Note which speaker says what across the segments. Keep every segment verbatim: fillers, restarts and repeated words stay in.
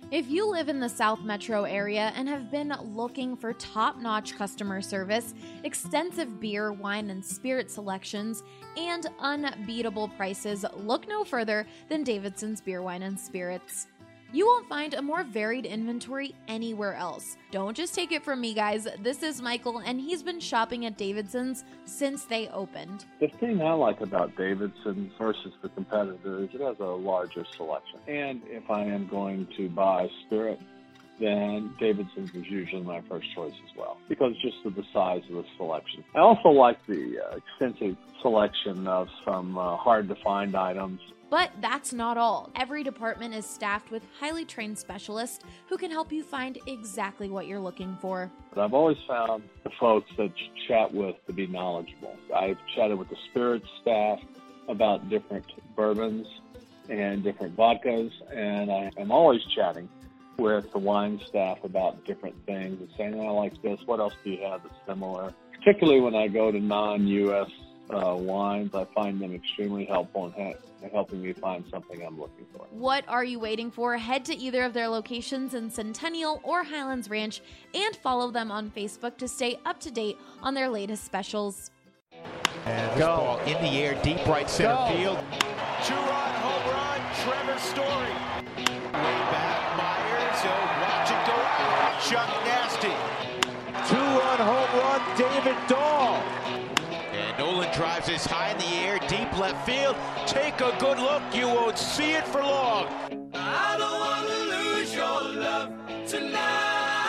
Speaker 1: If you live in the South Metro area and have been looking for top-notch customer service, extensive beer, wine, and spirit selections, and unbeatable prices, look no further than Davidson's Beer, Wine, and Spirits. You won't find a more varied inventory anywhere else. Don't just take it from me, guys. This is Michael, and he's been shopping at Davidson's since they opened.
Speaker 2: The thing I like about Davidson's versus the competitor is it has a larger selection. And if I am going to buy spirit, then Davidson's is usually my first choice as well, because just of the size of the selection. I also like the uh, extensive selection of some uh, hard-to-find items.
Speaker 1: But that's not all. Every department is staffed with highly trained specialists who can help you find exactly what you're looking for.
Speaker 2: But I've always found the folks that you chat with to be knowledgeable. I've chatted with the spirits staff about different bourbons and different vodkas, and I am always chatting with the wine staff about different things and saying, I like this, what else do you have that's similar? Particularly when I go to non-U S uh, wines, I find them extremely helpful in ha- helping me find something I'm looking for.
Speaker 1: What are you waiting for? Head to either of their locations in Centennial or Highlands Ranch and follow them on Facebook to stay up to date on their latest specials.
Speaker 3: And this ball in the air, deep right center
Speaker 4: Go.
Speaker 3: field.
Speaker 4: Two-run home run, Trevor Story. Way back, Myers, he'll watch it go out. Chuck Nasty.
Speaker 5: Two-run home run, David Dahl.
Speaker 3: And Nolan drives this high in the air, deep left field. Take a good look, you won't see it for long.
Speaker 4: I don't want to lose your love tonight.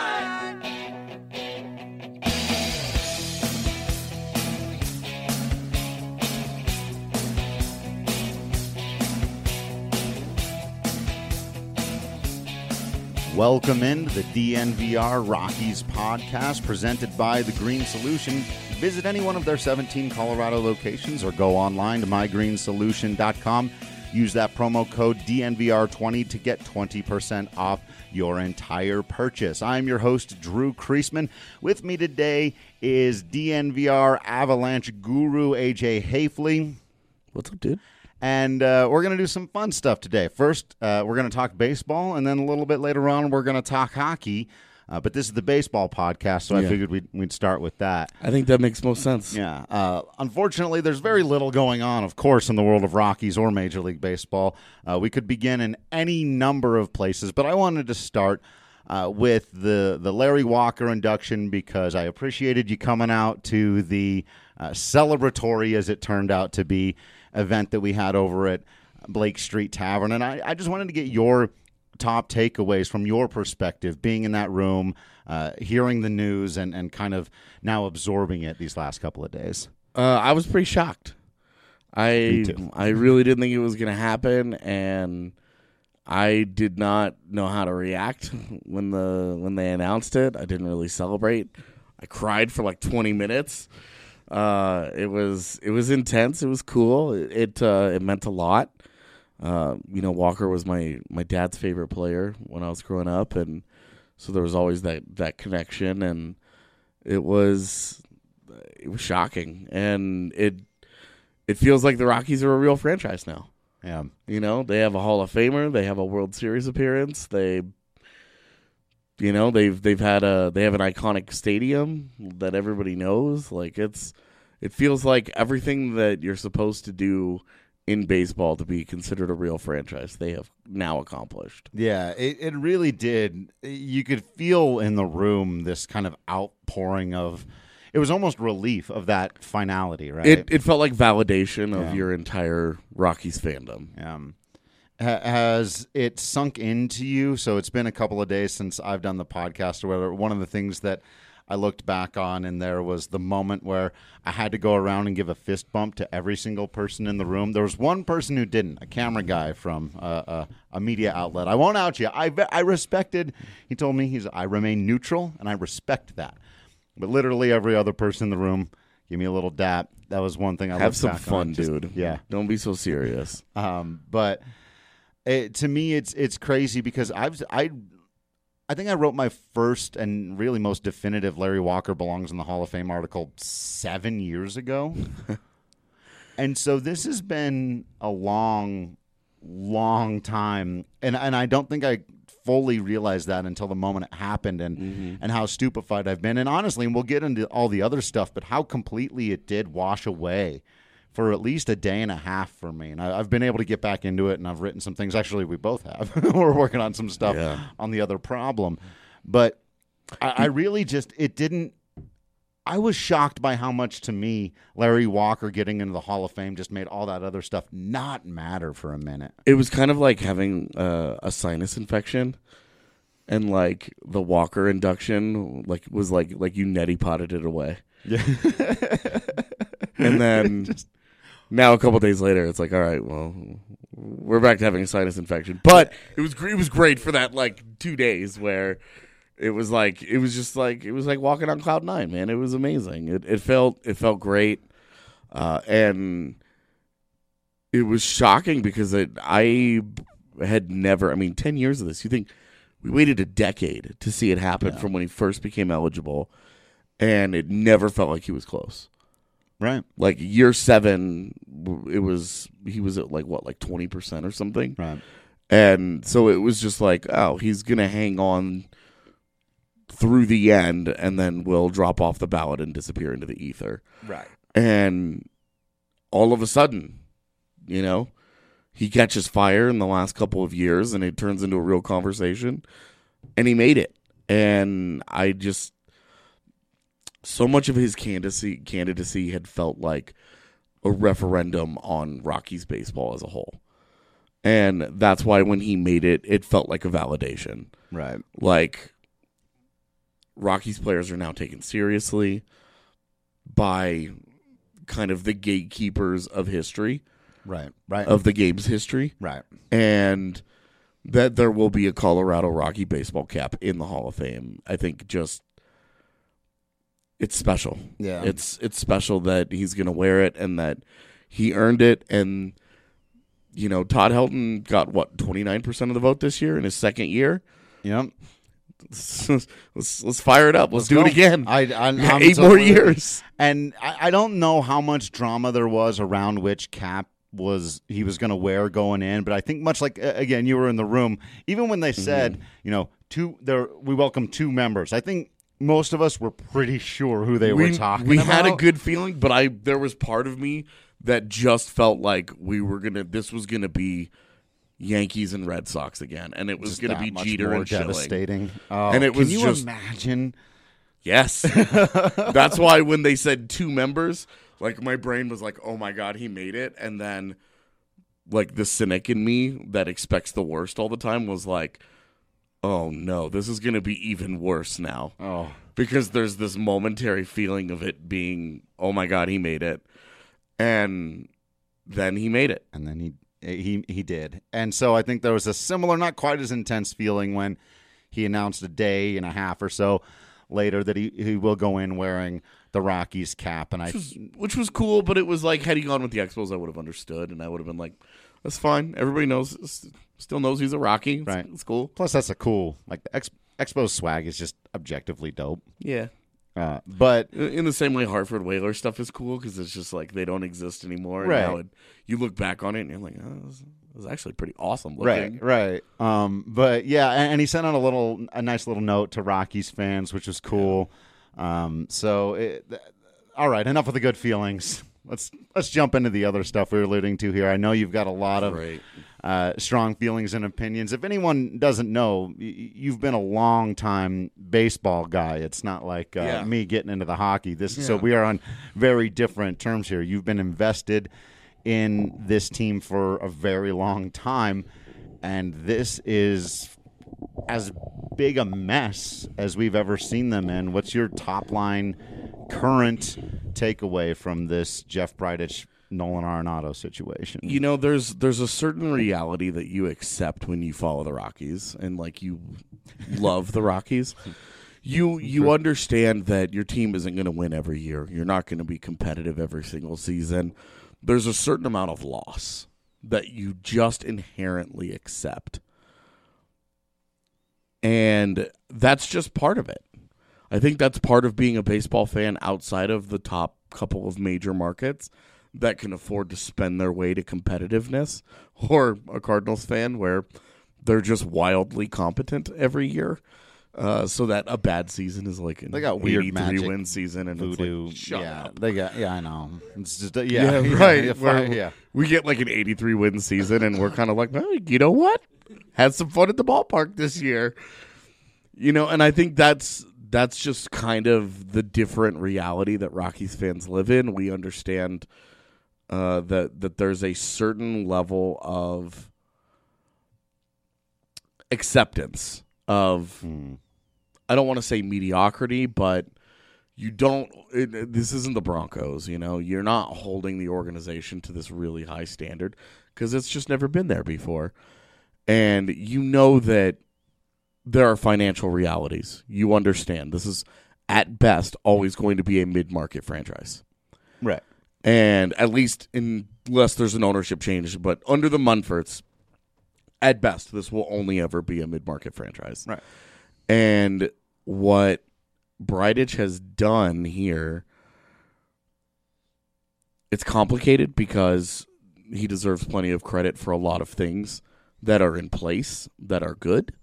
Speaker 6: Welcome into the D N V R Rockies podcast presented by The Green Solution. Visit any one of their seventeen Colorado locations or go online to my green solution dot com. Use that promo code D N V R twenty to get twenty percent off your entire purchase. I'm your host, Drew Kreisman. With me today is D N V R Avalanche guru A J Hafley.
Speaker 7: What's up, dude?
Speaker 6: And uh, we're going to do some fun stuff today. First, uh, we're going to talk baseball, and then a little bit later on, we're going to talk hockey. Uh, but this is the baseball podcast, so
Speaker 7: Yeah.
Speaker 6: I figured we'd, we'd start with that.
Speaker 7: I think that makes most sense.
Speaker 6: Yeah. Uh, unfortunately, there's very little going on, of course, in the world of Rockies or Major League Baseball. Uh, we could begin in any number of places, but I wanted to start uh, with the, the Larry Walker induction because I appreciated you coming out to the uh, celebratory, as it turned out to be, event that we had over at Blake Street Tavern. And I, I just wanted to get your top takeaways from your perspective, being in that room, uh, hearing the news, and, and kind of now absorbing it these last couple of days.
Speaker 7: Uh, I was pretty shocked. I
Speaker 6: Me too.
Speaker 7: I really didn't think it was going to happen, and I did not know how to react when the when they announced it. I didn't really celebrate. I cried for like twenty minutes. Uh, it was it was intense. It was cool. It it, uh, it meant a lot. Uh, you know, Walker was my, my dad's favorite player when I was growing up, and so there was always that, that connection, and it was it was shocking, and it it feels like the Rockies are a real franchise now.
Speaker 6: Yeah,
Speaker 7: You know, they have a Hall of Famer, they have a World Series appearance, they you know they've they've had a they have an iconic stadium that everybody knows. Like it's it feels like everything that you're supposed to do in baseball to be considered a real franchise, they have now accomplished.
Speaker 6: yeah, it, it really did. You could feel in the room this kind of outpouring of, it was almost relief of that finality, right?
Speaker 7: It it felt like validation of
Speaker 6: Yeah.
Speaker 7: your entire Rockies fandom.
Speaker 6: Um, ha- has it sunk into you? So it's been a couple of days since I've done the podcast or whatever. One of the things that I looked back on and there was the moment where I had to go around and give a fist bump to every single person in the room. There was one person who didn't, a camera guy from uh, a, a media outlet. I won't out you. I, I respected, he told me, he's I remain neutral, and I respect that. But literally every other person in the room gave me a little dap. That was one thing I
Speaker 7: Have
Speaker 6: looked
Speaker 7: some
Speaker 6: back
Speaker 7: fun,
Speaker 6: on. Just-
Speaker 7: dude.
Speaker 6: Yeah.
Speaker 7: Don't be so serious.
Speaker 6: Um, but it, to me, it's it's crazy because I've I I think I wrote my first and really most definitive Larry Walker belongs in the Hall of Fame article seven years ago, and so this has been a long, long time, and and I don't think I fully realize that until the moment it happened, and
Speaker 7: Mm-hmm.
Speaker 6: and how stupefied I've been. And honestly, and we'll get into all the other stuff, but how completely it did wash away for at least a day and a half for me. And I, I've been able to get back into it, and I've written some things. Actually, we both have. We're working on some stuff
Speaker 7: Yeah.
Speaker 6: on the other problem. But I, I really just, it didn't, I was shocked by how much, to me, Larry Walker getting into the Hall of Fame just made all that other stuff not matter for a minute.
Speaker 7: It was kind of like having uh, a sinus infection, and like the Walker induction, like was like like you neti potted it away.
Speaker 6: Yeah.
Speaker 7: And then
Speaker 6: Just-
Speaker 7: now a couple days later, it's like, all right, well, we're back to having a sinus infection. But it was gr- it was great for that like two days where it was like it was just like it was like walking on cloud nine, man. It was amazing. It it felt it felt great, uh, and it was shocking because it, I had never. I mean, ten years of this. You think we waited a decade to see it happen
Speaker 6: Yeah.
Speaker 7: from when he first became eligible, and it never felt like he was close.
Speaker 6: Right.
Speaker 7: Like year seven, it was he was at like what, like twenty percent or something,
Speaker 6: Right.
Speaker 7: and so it was just like, oh, he's gonna hang on through the end, and then will drop off the ballot and disappear into the ether.
Speaker 6: Right.
Speaker 7: And all of a sudden, you know, he catches fire in the last couple of years, and it turns into a real conversation, and he made it. And I just. So much of his candidacy candidacy had felt like a referendum on Rockies baseball as a whole. And that's why when he made it, it felt like a validation.
Speaker 6: Right.
Speaker 7: Like, Rockies players are now taken seriously by kind of the gatekeepers of history,
Speaker 6: Right. Right.
Speaker 7: of the game's history.
Speaker 6: Right.
Speaker 7: And that there will be a Colorado Rocky baseball cap in the Hall of Fame. I think just... It's special.
Speaker 6: Yeah.
Speaker 7: It's it's special that he's going to wear it and that he earned it. And, you know, Todd Helton got, what, twenty-nine percent of the vote this year in his second year?
Speaker 6: Yep.
Speaker 7: Let's, let's, let's fire it up. Let's,
Speaker 6: Let's
Speaker 7: do
Speaker 6: go.
Speaker 7: it again.
Speaker 6: I, I, I'm
Speaker 7: Eight more
Speaker 6: totally-
Speaker 7: years.
Speaker 6: And I, I don't know how much drama there was around which cap was he was going to wear going in, but I think much like, uh, again, you were in the room, even when they said,
Speaker 7: Mm-hmm.
Speaker 6: you know, two there we welcome two members, I think most of us were pretty sure who they
Speaker 7: we,
Speaker 6: were talking
Speaker 7: we
Speaker 6: about.
Speaker 7: had a good feeling, but I there was part of me that just felt like we were gonna this was gonna be Yankees and Red Sox again, and it was
Speaker 6: Just
Speaker 7: gonna
Speaker 6: that
Speaker 7: be
Speaker 6: much
Speaker 7: Jeter
Speaker 6: more
Speaker 7: and Schilling.
Speaker 6: devastating. Oh,
Speaker 7: And it was
Speaker 6: can you
Speaker 7: just-
Speaker 6: imagine?
Speaker 7: Yes. That's why when they said two members, like my brain was like, oh my God, he made it. And then like the cynic in me that expects the worst all the time was like, oh no, this is going to be even worse now.
Speaker 6: Oh,
Speaker 7: Because there's this momentary feeling of it being, oh my God, he made it. And then he made it.
Speaker 6: and then he he he did. And so I think there was a similar, not quite as intense feeling when he announced a day and a half or so later that he, he will go in wearing the Rockies cap. And I
Speaker 7: Which was, which was cool, but it was like, had he gone with the Expos, I would have understood. And I would have been like, that's fine. Everybody knows, still knows he's a Rocky. It's,
Speaker 6: Right.
Speaker 7: it's cool.
Speaker 6: plus that's a cool, like the Ex, Expo swag is just objectively dope.
Speaker 7: Yeah.
Speaker 6: Uh, but
Speaker 7: In the same way Hartford Whaler stuff is cool because it's just like they don't exist anymore. And
Speaker 6: Right.
Speaker 7: now it, you look back on it and you're like, oh, this is actually pretty awesome looking.
Speaker 6: right, right. Um, but yeah, and, and he sent out a little, a nice little note to Rockies fans, which was cool. Um, so, it, th- all right, enough of the good feelings. Let's let's jump into the other stuff we were alluding to here. I know you've got a lot of
Speaker 7: Right.
Speaker 6: uh, strong feelings and opinions. If anyone doesn't know, y- you've been a long time baseball guy. It's not like uh,
Speaker 7: Yeah.
Speaker 6: me getting into the hockey. This so
Speaker 7: Yeah.
Speaker 6: we are on very different terms here. You've been invested in this team for a very long time, and this is as big a mess as we've ever seen them in. What's your top line current takeaway from this Jeff Bridich, Nolan Arenado situation?
Speaker 7: You know, there's there's a certain reality that you accept when you follow the Rockies and like you love the Rockies. You you understand that your team isn't going to win every year. You're not going to be competitive every single season. There's a certain amount of loss that you just inherently accept. And that's just part of it. I think that's part of being a baseball fan outside of the top couple of major markets that can afford to spend their way to competitiveness, or a Cardinals fan where they're just wildly competent every year. Uh, so that a bad season is like an
Speaker 6: they got weird
Speaker 7: eighty-three
Speaker 6: magic
Speaker 7: win season, and
Speaker 6: voodoo.
Speaker 7: It's like, shut
Speaker 6: yeah,
Speaker 7: up.
Speaker 6: they got. Yeah, I know. It's just uh, yeah,
Speaker 7: Yeah,
Speaker 6: yeah,
Speaker 7: right.
Speaker 6: Yeah,
Speaker 7: Where
Speaker 6: yeah.
Speaker 7: We get like an eighty-three win season, and we're kind of like, well, you know what? Had some fun at the ballpark this year, you know. And I think that's that's just kind of the different reality that Rockies fans live in. We understand uh, that that there's a certain level of acceptance of.
Speaker 6: Hmm.
Speaker 7: I don't want to say mediocrity, but you don't it, this isn't the Broncos, you know. You're not holding the organization to this really high standard because it's just never been there before. And you know that there are financial realities. You understand this is at best always going to be a mid-market franchise.
Speaker 6: Right.
Speaker 7: And at least unless there's an ownership change, but under the Munforts, at best this will only ever be a mid-market franchise.
Speaker 6: Right.
Speaker 7: And what Bridich has done here, it's complicated because he deserves plenty of credit for a lot of things that are in place that are good.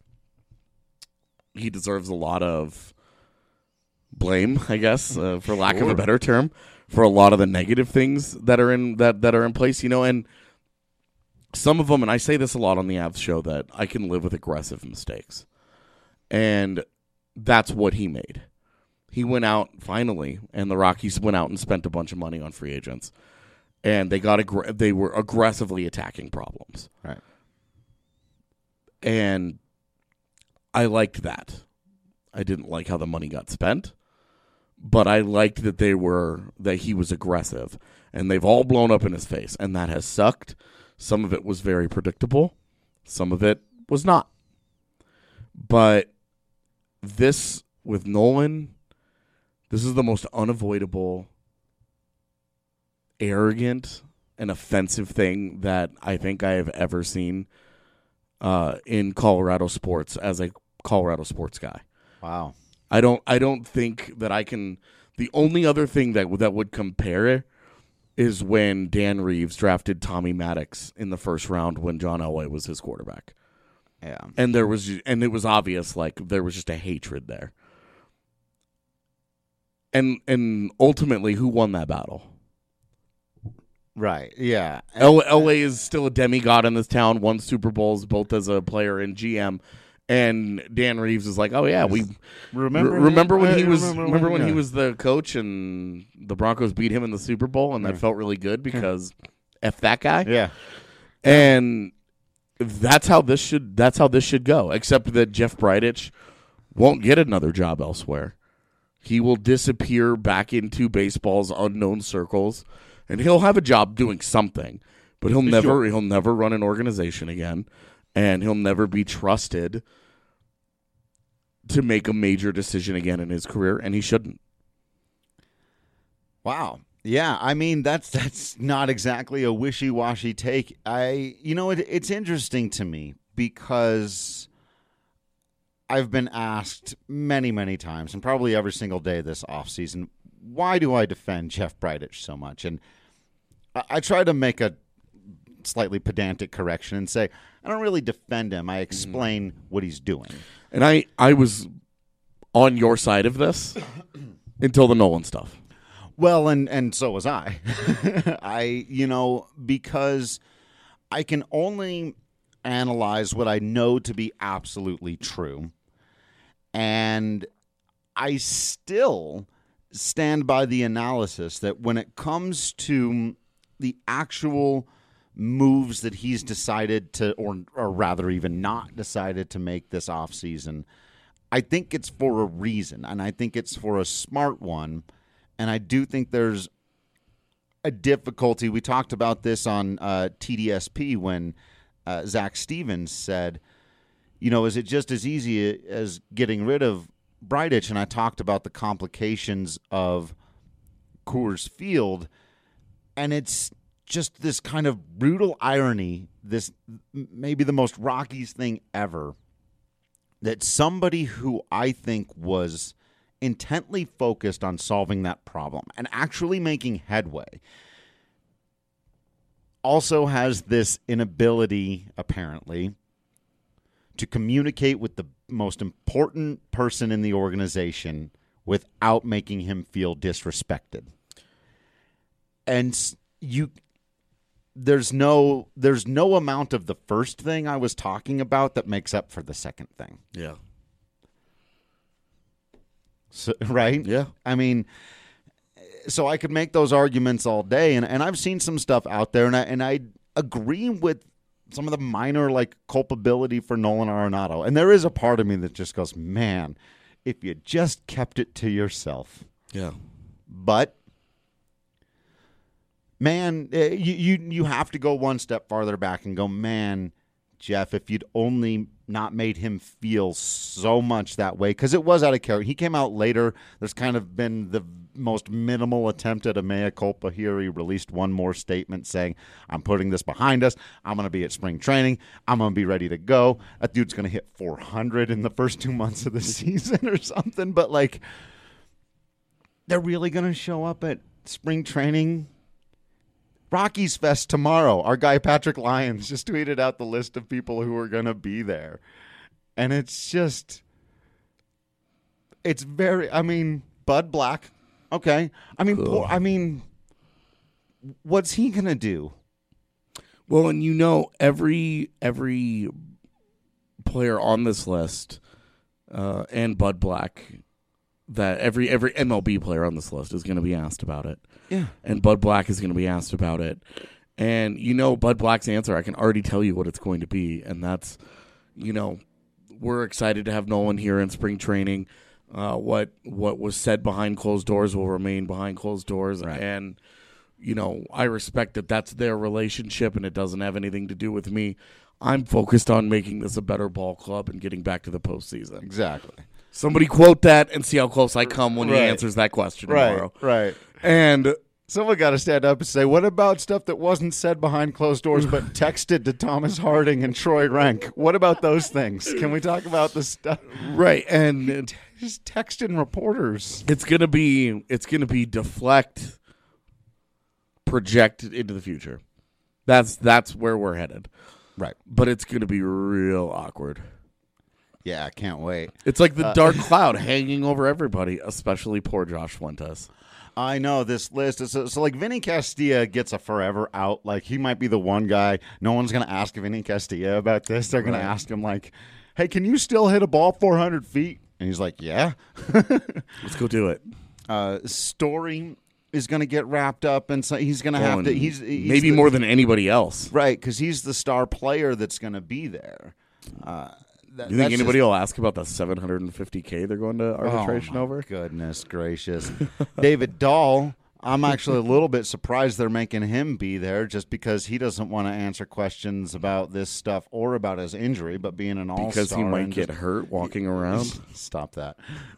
Speaker 7: He deserves a lot of blame, I guess, uh, for lack
Speaker 6: Sure.
Speaker 7: of a better term, for a lot of the negative things that are in that that are in place. You know, and some of them, and I say this a lot on the Avs show, that I can live with aggressive mistakes. And that's what he made. He went out finally, and the Rockies went out and spent a bunch of money on free agents, and they got aggr- they were aggressively attacking problems.
Speaker 6: Right.
Speaker 7: And I liked that. I didn't like how the money got spent, but I liked that they were that he was aggressive, and they've all blown up in his face, and that has sucked. Some of it was very predictable, some of it was not. But this, with Nolan, this is the most unavoidable, arrogant, and offensive thing that I think I have ever seen uh, in Colorado sports as a Colorado sports guy.
Speaker 6: Wow.
Speaker 7: I don't. I don't think that I can. The only other thing that that would compare it is when Dan Reeves drafted Tommy Maddox in the first round when John Elway was his quarterback.
Speaker 6: Yeah.
Speaker 7: And there was, and it was obvious, like there was just a hatred there. And and ultimately, who won that battle?
Speaker 6: Right. Yeah.
Speaker 7: El- Elway is still a demigod in this town. Won Super Bowls both as a player and G M. And Dan Reeves is like, oh yeah, we
Speaker 6: Remember?
Speaker 7: re- remember when he was
Speaker 6: remember
Speaker 7: remember
Speaker 6: when-
Speaker 7: when he
Speaker 6: yeah.
Speaker 7: was the coach and the Broncos beat him in the Super Bowl, and that
Speaker 6: Yeah.
Speaker 7: felt really good because F that guy.
Speaker 6: Yeah.
Speaker 7: And that's how this should that's how this should go. Except that Jeff Bridich won't get another job elsewhere. He will disappear back into baseball's unknown circles, and he'll have a job doing something, but he'll never
Speaker 6: Sure.
Speaker 7: he'll never run an organization again, and he'll never be trusted to make a major decision again in his career, and he shouldn't.
Speaker 6: Wow. Yeah, I mean that's that's not exactly a wishy-washy take. I you know it, it's interesting to me because I've been asked many, many times, and probably every single day this offseason, why do I defend Jeff Bridich so much? And I, I try to make a slightly pedantic correction and say, I don't really defend him. I explain what he's doing.
Speaker 7: And I, I was on your side of this until the Nolan stuff.
Speaker 6: Well, and, and so was I. I, you know, because I can only analyze what I know to be absolutely true. And I still stand by the analysis that when it comes to the actual moves that he's decided to, or, or rather even not decided to make this offseason, I think it's for a reason, and I think it's for a smart one. And I do think there's a difficulty. We talked about this on uh, T D S P when uh, Zach Stevens said, you know, is it just as easy as getting rid of Bridich? And I talked about the complications of Coors Field. And it's just this kind of brutal irony, this maybe the most Rockies thing ever, that somebody who I think was intently focused on solving that problem and actually making headway also has this inability, apparently, to communicate with the most important person in the organization without making him feel disrespected. And you there's no there's no amount of the first thing I was talking about that makes up for the second thing.
Speaker 7: Yeah.
Speaker 6: So, right?
Speaker 7: Yeah.
Speaker 6: I mean, so I could make those arguments all day, and, and I've seen some stuff out there, and I, and I agree with some of the minor, like, culpability for Nolan Arenado. And there is a part of me that just goes, man, if you just kept it to yourself.
Speaker 7: Yeah.
Speaker 6: But, man, you, you, you have to go one step farther back and go, man, Jeff, if you'd only not made him feel so much that way, because it was out of character. He came out later. There's kind of been the most minimal attempt at a mea culpa here. He released one more statement saying, I'm putting this behind us. I'm going to be at spring training. I'm going to be ready to go. That dude's going to hit four hundred in the first two months of the season or something. But, like, they're really going to show up at spring training? Rockies Fest tomorrow. Our guy Patrick Lyons just tweeted out the list of people who are going to be there. And it's just, it's very, I mean, Bud Black. Okay. I mean, poor, I mean, what's he going to do?
Speaker 7: Well, and you know, every every player on this list uh, and Bud Black, that every every M L B player on this list is going to be asked about it.
Speaker 6: Yeah.
Speaker 7: And Bud Black is going to be asked about it. And you know Bud Black's answer, I can already tell you what it's going to be, and that's, you know, we're excited to have Nolan here in spring training. Uh, what what was said behind closed doors will remain behind closed doors.
Speaker 6: Right.
Speaker 7: And, you know, I respect that that's their relationship and it doesn't have anything to do with me. I'm focused on making this a better ball club and getting back to the postseason.
Speaker 6: Exactly.
Speaker 7: Somebody quote that and see how close I come when
Speaker 6: Right.
Speaker 7: he answers that question tomorrow.
Speaker 6: Right, right.
Speaker 7: And
Speaker 6: Someone got to stand up and say, what about stuff that wasn't said behind closed doors but texted to Thomas Harding and Troy Rank? What about those things? Can we talk about the stuff?
Speaker 7: right, and
Speaker 6: Just texting reporters.
Speaker 7: it's gonna be it's gonna be deflect, project into the future. That's that's where we're headed.
Speaker 6: Right.
Speaker 7: But it's gonna be real awkward.
Speaker 6: Yeah, I can't wait.
Speaker 7: It's like the dark cloud hanging over everybody, especially poor Josh Fuentes.
Speaker 6: I know this list. Is, so, like, Vinny Castilla gets a forever out. Like, he might be the one guy. No one's going to ask Vinny Castilla about this. They're going
Speaker 7: Right.
Speaker 6: to ask him, like, hey, can you still hit a ball four hundred feet? And he's like, yeah.
Speaker 7: Let's go do it.
Speaker 6: Uh, Story is going to get wrapped up, and so he's going to have
Speaker 7: Oh,
Speaker 6: to. He's, he's
Speaker 7: maybe
Speaker 6: the,
Speaker 7: more than anybody else.
Speaker 6: right, because he's the star player that's going to be there. Uh, that,
Speaker 7: You think
Speaker 6: that's
Speaker 7: anybody
Speaker 6: just-
Speaker 7: will ask about the seven hundred fifty K they're going to arbitration
Speaker 6: oh my
Speaker 7: over?
Speaker 6: Goodness gracious. David Dahl, I'm actually a little bit surprised they're making him be there just because he doesn't want to answer questions about this stuff or about his injury, but being an all-star.
Speaker 7: Because he might
Speaker 6: and
Speaker 7: get
Speaker 6: just-
Speaker 7: hurt walking around.
Speaker 6: Stop that.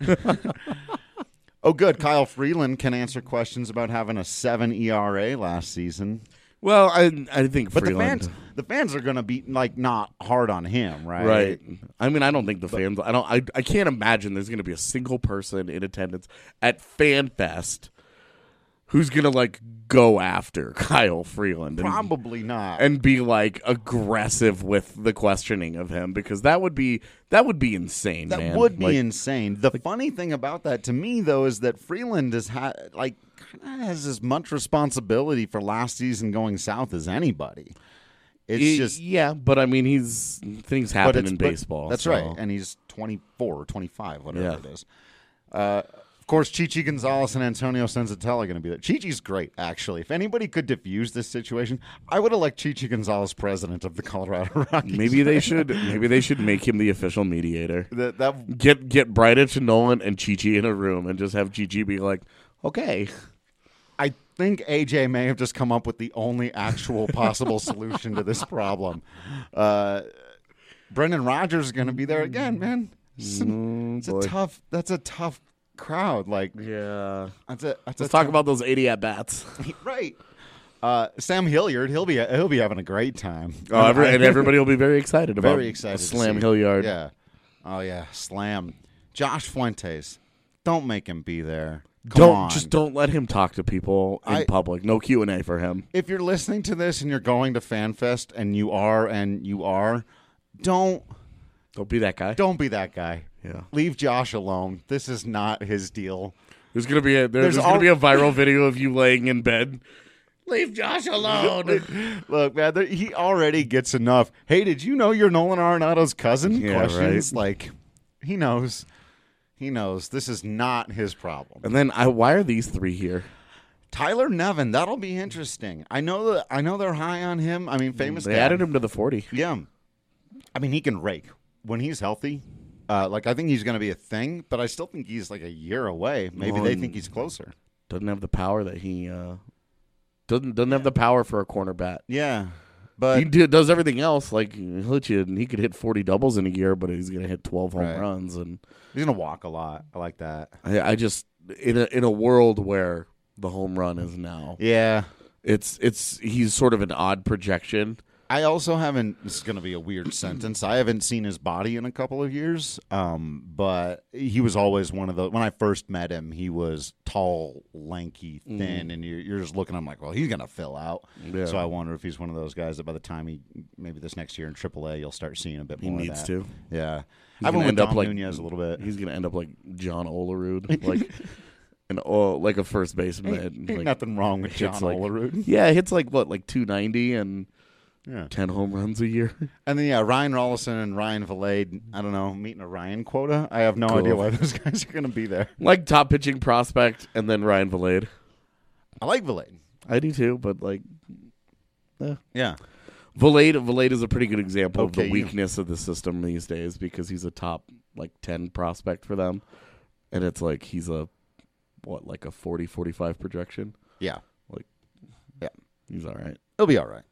Speaker 6: Oh, good. Kyle Freeland can answer questions about having a seven E R A last season.
Speaker 7: Well, I I think
Speaker 6: But
Speaker 7: Freeland.
Speaker 6: the fans, the fans are going to be like not hard on him, right?
Speaker 7: Right. I mean, I don't think the fans. I don't. I, I can't imagine there's going to be a single person in attendance at FanFest who's going to like go after Kyle Freeland and,
Speaker 6: Probably not.
Speaker 7: and be like aggressive with the questioning of him, because that would be that would be insane.
Speaker 6: That
Speaker 7: man.
Speaker 6: would be
Speaker 7: Like,
Speaker 6: insane. The funny thing about that to me, though, is that Freeland is ha- like kind of has as much responsibility for last season going south as anybody. It's
Speaker 7: y-
Speaker 6: just
Speaker 7: yeah, but I mean, he's things
Speaker 6: but
Speaker 7: happen
Speaker 6: it's-
Speaker 7: in
Speaker 6: but-
Speaker 7: baseball.
Speaker 6: That's
Speaker 7: so-
Speaker 6: right, and he's twenty-four or twenty-five, whatever
Speaker 7: Yeah.
Speaker 6: it is. Uh, of course, Chichi Gonzalez and Antonio Senzatella are going to be there. Chichi's great, actually. If anybody could diffuse this situation, I would elect Chichi Gonzalez president of the Colorado Rockies.
Speaker 7: Maybe they should. Maybe they should make him the official mediator.
Speaker 6: that that
Speaker 7: Get get Bridich and Nolan and Chi-Chi in a room and just have Chi-Chi be like, okay.
Speaker 6: I think A J may have just come up with the only actual possible solution to this problem. Uh, Brendan Rodgers is going to be there again, man. It's, a-
Speaker 7: Mm,
Speaker 6: it's a
Speaker 7: boy.
Speaker 6: tough. That's a tough crowd. Like,
Speaker 7: Yeah.
Speaker 6: that's a. That's
Speaker 7: Let's
Speaker 6: a
Speaker 7: talk
Speaker 6: tough-
Speaker 7: about those eighty at bats.
Speaker 6: right. Uh, Sam Hilliard, he'll be he'll be having a great time.
Speaker 7: Oh, every, and everybody will be very excited about
Speaker 6: very excited. to
Speaker 7: Slam
Speaker 6: see.
Speaker 7: Hilliard.
Speaker 6: Yeah. Oh yeah, Slam. Josh Fuentes. Don't make him be there. Come
Speaker 7: Don't
Speaker 6: on.
Speaker 7: just don't let him talk to people in
Speaker 6: I-
Speaker 7: public. No Q and A for him.
Speaker 6: If you're listening to this and you're going to FanFest, and you are and you are, don't
Speaker 7: Don't be that guy.
Speaker 6: Don't be that guy.
Speaker 7: Yeah.
Speaker 6: Leave Josh alone. This is not his deal.
Speaker 7: There's gonna be a there, there's,
Speaker 6: There's
Speaker 7: gonna
Speaker 6: al-
Speaker 7: be a viral video of you laying in bed. Leave Josh alone.
Speaker 6: Look, man, there, he already gets enough. Hey, did you know you're Nolan Arenado's cousin?
Speaker 7: Yeah,
Speaker 6: Questions
Speaker 7: right.
Speaker 6: like he knows. He knows this is not his problem.
Speaker 7: And then I why are these three here?
Speaker 6: Tyler Nevin, that'll be interesting. I know that I know they're high on him. I mean, famous.
Speaker 7: They
Speaker 6: dad.
Speaker 7: added him to the forty.
Speaker 6: Yeah, I mean he can rake when he's healthy. Uh, like I think he's going to be a thing, but I still think he's like a year away. Maybe
Speaker 7: Well,
Speaker 6: they think he's closer.
Speaker 7: Doesn't have the power that he uh, doesn't doesn't have the power for a corner bat.
Speaker 6: Yeah, but
Speaker 7: He do, does everything else. Like he'll hit you, and he could hit forty doubles in a year, but he's gonna hit twelve home
Speaker 6: Right.
Speaker 7: runs. And
Speaker 6: he's going to walk a lot. I like that.
Speaker 7: I, I just in a in a world where the home run is now,
Speaker 6: Yeah.
Speaker 7: it's it's he's sort of an odd projection.
Speaker 6: I also haven't. This is going to be a weird sentence. I haven't seen his body in a couple of years. Um, but he was always one of the. When I first met him, he was tall, lanky, thin, and you're, you're just looking at him like, well, he's going to fill out.
Speaker 7: Yeah.
Speaker 6: So I wonder if he's one of those guys that by the time he maybe this next year in triple A, you'll start seeing a bit
Speaker 7: He
Speaker 6: more.
Speaker 7: needs
Speaker 6: of that.
Speaker 7: to.
Speaker 6: Yeah,
Speaker 7: He's
Speaker 6: I went
Speaker 7: gonna
Speaker 6: with
Speaker 7: end up
Speaker 6: Dom
Speaker 7: like-
Speaker 6: Nunez a little bit.
Speaker 7: He's gonna end up like John Olerud, like an oh, like a first baseman.
Speaker 6: Ain't,
Speaker 7: that,
Speaker 6: ain't
Speaker 7: like,
Speaker 6: nothing wrong with John
Speaker 7: hits like-
Speaker 6: Olerud.
Speaker 7: Yeah, hits like what, like two ninety and
Speaker 6: Yeah.
Speaker 7: ten home runs a year.
Speaker 6: And then, yeah, Ryan Rollison and Ryan Valade, I don't know, meeting a Ryan quota. I have no
Speaker 7: Cool.
Speaker 6: idea why those guys are going to be there.
Speaker 7: Like top pitching prospect, and then Ryan Valade.
Speaker 6: I like Valade.
Speaker 7: I do too, but like
Speaker 6: Yeah.
Speaker 7: Valade, Valade is a pretty good example of
Speaker 6: Okay,
Speaker 7: the
Speaker 6: you-
Speaker 7: weakness of the system these days because he's a top like ten prospect for them, and it's like he's a what like a forty, forty-five projection.
Speaker 6: Yeah.
Speaker 7: Like,
Speaker 6: yeah,
Speaker 7: he's all right.
Speaker 6: He'll be all right.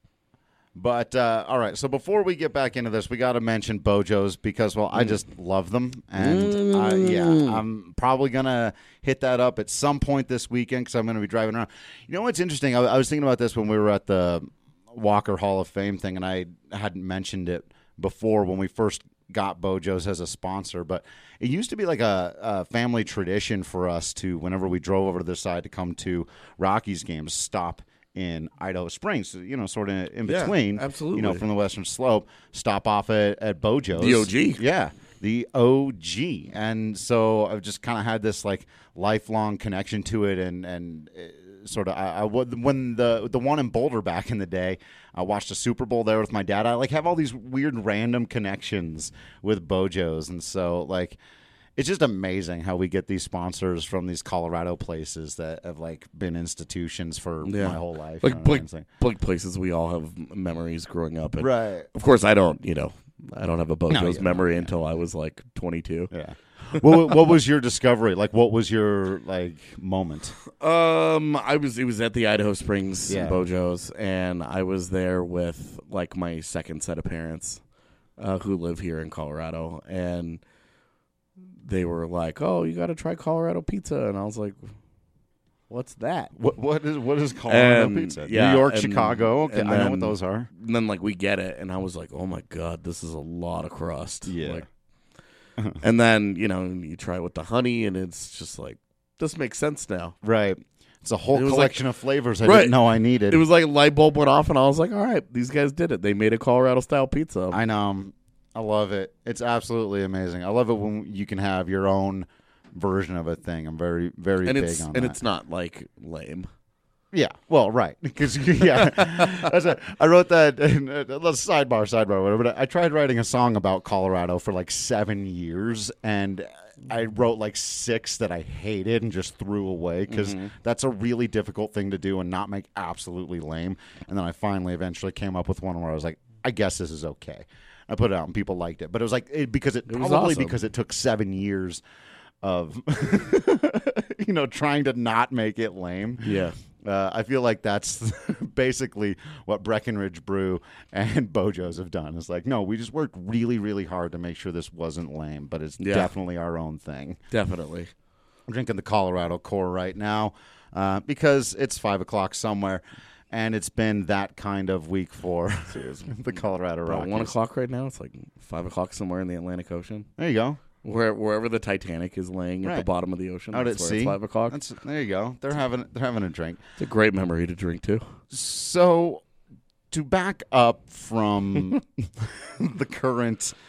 Speaker 6: But, uh, all right, so before we get back into this, we got to mention Bojos because, well, I just love them. And, uh, yeah, I'm probably going to hit that up at some point this weekend because I'm going to be driving around. You know what's interesting? I, I was thinking about this when we were at the Walker Hall of Fame thing, and I hadn't mentioned it before when we first got Bojos as a sponsor, but it used to be like a, a family tradition for us to, whenever we drove over to this side to come to Rockies games, stop in Idaho Springs, you know, sort of in
Speaker 7: Yeah,
Speaker 6: between,
Speaker 7: absolutely.
Speaker 6: you know, from the Western Slope, stop off at, at Bojos.
Speaker 7: The O G.
Speaker 6: Yeah, the O G. And so I've just kind of had this, like, lifelong connection to it, and, and uh, sort of, I, I, when the the one in Boulder back in the day, I watched a Super Bowl there with my dad. I, like, have all these weird random connections with Bojos, and so, like, it's just amazing how we get these sponsors from these Colorado places that have like been institutions for
Speaker 7: Yeah.
Speaker 6: my whole life.
Speaker 7: Like,
Speaker 6: you know what
Speaker 7: like,
Speaker 6: I'm saying?
Speaker 7: like places we all have m- memories growing up. And
Speaker 6: Right.
Speaker 7: Of course, I don't. You know, I don't have a Bojos
Speaker 6: No, yeah,
Speaker 7: memory
Speaker 6: yeah.
Speaker 7: until I was like twenty-two.
Speaker 6: Yeah. what, what was your discovery? Like, what was your like moment?
Speaker 7: Um, I was it was at the Idaho Springs
Speaker 6: Yeah.
Speaker 7: Bojos, and I was there with like my second set of parents, uh, who live here in Colorado, and they were like, "Oh, you got to try Colorado pizza," and I was like, "What's that?"
Speaker 6: What what is what is Colorado
Speaker 7: And,
Speaker 6: pizza?
Speaker 7: yeah,
Speaker 6: New York,
Speaker 7: and-
Speaker 6: Chicago. Okay,
Speaker 7: and
Speaker 6: I know
Speaker 7: then-
Speaker 6: what those are.
Speaker 7: And then like we get it, and I was like, "Oh my god, this is a lot of crust."
Speaker 6: Yeah.
Speaker 7: Like, and then you know you try it with the honey, and it's just like this makes sense now.
Speaker 6: Right. It's a whole
Speaker 7: It was
Speaker 6: collection of flavors I
Speaker 7: Right.
Speaker 6: didn't know I needed.
Speaker 7: It was like a light bulb went off, and I was like, "All right, these guys did it. They made a Colorado style pizza."
Speaker 6: I know. I love it. It's absolutely amazing. I love it when you can have your own version of a thing. I'm very, very
Speaker 7: and
Speaker 6: big
Speaker 7: it's
Speaker 6: on
Speaker 7: and
Speaker 6: that.
Speaker 7: it's not like lame.
Speaker 6: Yeah, well, right, because yeah, that's a, I wrote that. In, uh, let's sidebar, sidebar, whatever. But I, I tried writing a song about Colorado for like seven years, and I wrote like six that I hated and just threw away because
Speaker 7: Mm-hmm.
Speaker 6: that's a really difficult thing to do and not make absolutely lame. And then I finally, eventually, came up with one where I was like, I guess this is okay. I put it out and people liked it, but it was like it, because it,
Speaker 7: It was
Speaker 6: probably
Speaker 7: awesome.
Speaker 6: because it took seven years of you know trying to not make it lame.
Speaker 7: Yeah.
Speaker 6: Uh, I feel like that's basically what Breckenridge Brew and Bojos have done. It's like, no, we just worked really, really hard to make sure this wasn't lame, but it's
Speaker 7: Yeah.
Speaker 6: definitely our own thing.
Speaker 7: Definitely.
Speaker 6: I'm drinking the Colorado Core right now uh, because it's five o'clock somewhere, and it's been that kind of week for the Colorado
Speaker 7: About
Speaker 6: Rockies.
Speaker 7: one o'clock right now. It's like five o'clock somewhere in the Atlantic Ocean,
Speaker 6: There you go.
Speaker 7: where wherever the Titanic is laying at the
Speaker 6: Right.
Speaker 7: bottom of the ocean.
Speaker 6: Out
Speaker 7: that's
Speaker 6: at
Speaker 7: where
Speaker 6: sea.
Speaker 7: It's five o'clock.
Speaker 6: That's, there you go. They're having they're having a drink.
Speaker 7: It's a great memory to drink too.
Speaker 6: So, to back up from the current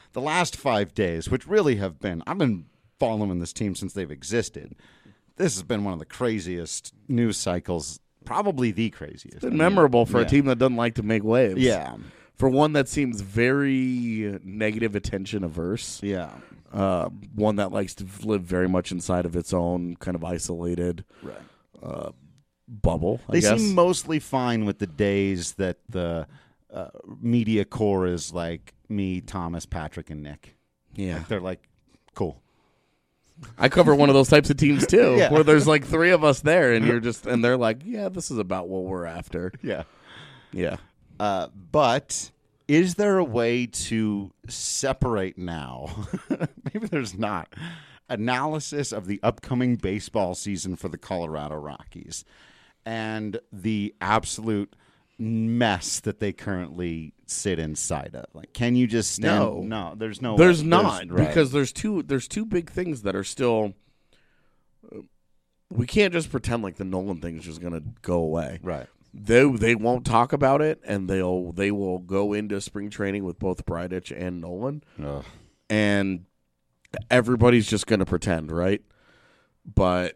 Speaker 6: the last five days, which really have been, I've been following this team since they've existed. This has been one of the craziest news cycles, probably the craziest.
Speaker 7: It's been memorable for
Speaker 6: yeah.
Speaker 7: a team that doesn't like to make waves.
Speaker 6: Yeah.
Speaker 7: For one that seems very negative attention averse.
Speaker 6: Yeah.
Speaker 7: Uh, one that likes to live very much inside of its own kind of isolated
Speaker 6: Right.
Speaker 7: uh, bubble, I
Speaker 6: They
Speaker 7: guess.
Speaker 6: seem mostly fine with the days that the uh, media core is like me, Thomas, Patrick, and Nick.
Speaker 7: Yeah.
Speaker 6: Like, they're like, cool.
Speaker 7: I cover one of those types of teams too,
Speaker 6: Yeah.
Speaker 7: where there's like three of us there, and you're just, and they're like, yeah, this is about what we're after.
Speaker 6: Yeah.
Speaker 7: Yeah.
Speaker 6: Uh, but is there a way to separate now? Maybe there's not. Analysis of the upcoming baseball season for the Colorado Rockies and the absolute mess that they currently sit inside of. Like, can you just stand?
Speaker 7: No.
Speaker 6: No, there's no
Speaker 7: There's
Speaker 6: way.
Speaker 7: not
Speaker 6: right.
Speaker 7: because there's two there's two big things that are still. Uh, we can't just pretend like the Nolan thing is just going to go away.
Speaker 6: Right.
Speaker 7: They they won't talk about it, and they'll they will go into spring training with both Bridich and Nolan,
Speaker 6: Ugh.
Speaker 7: and everybody's just going to pretend, right? But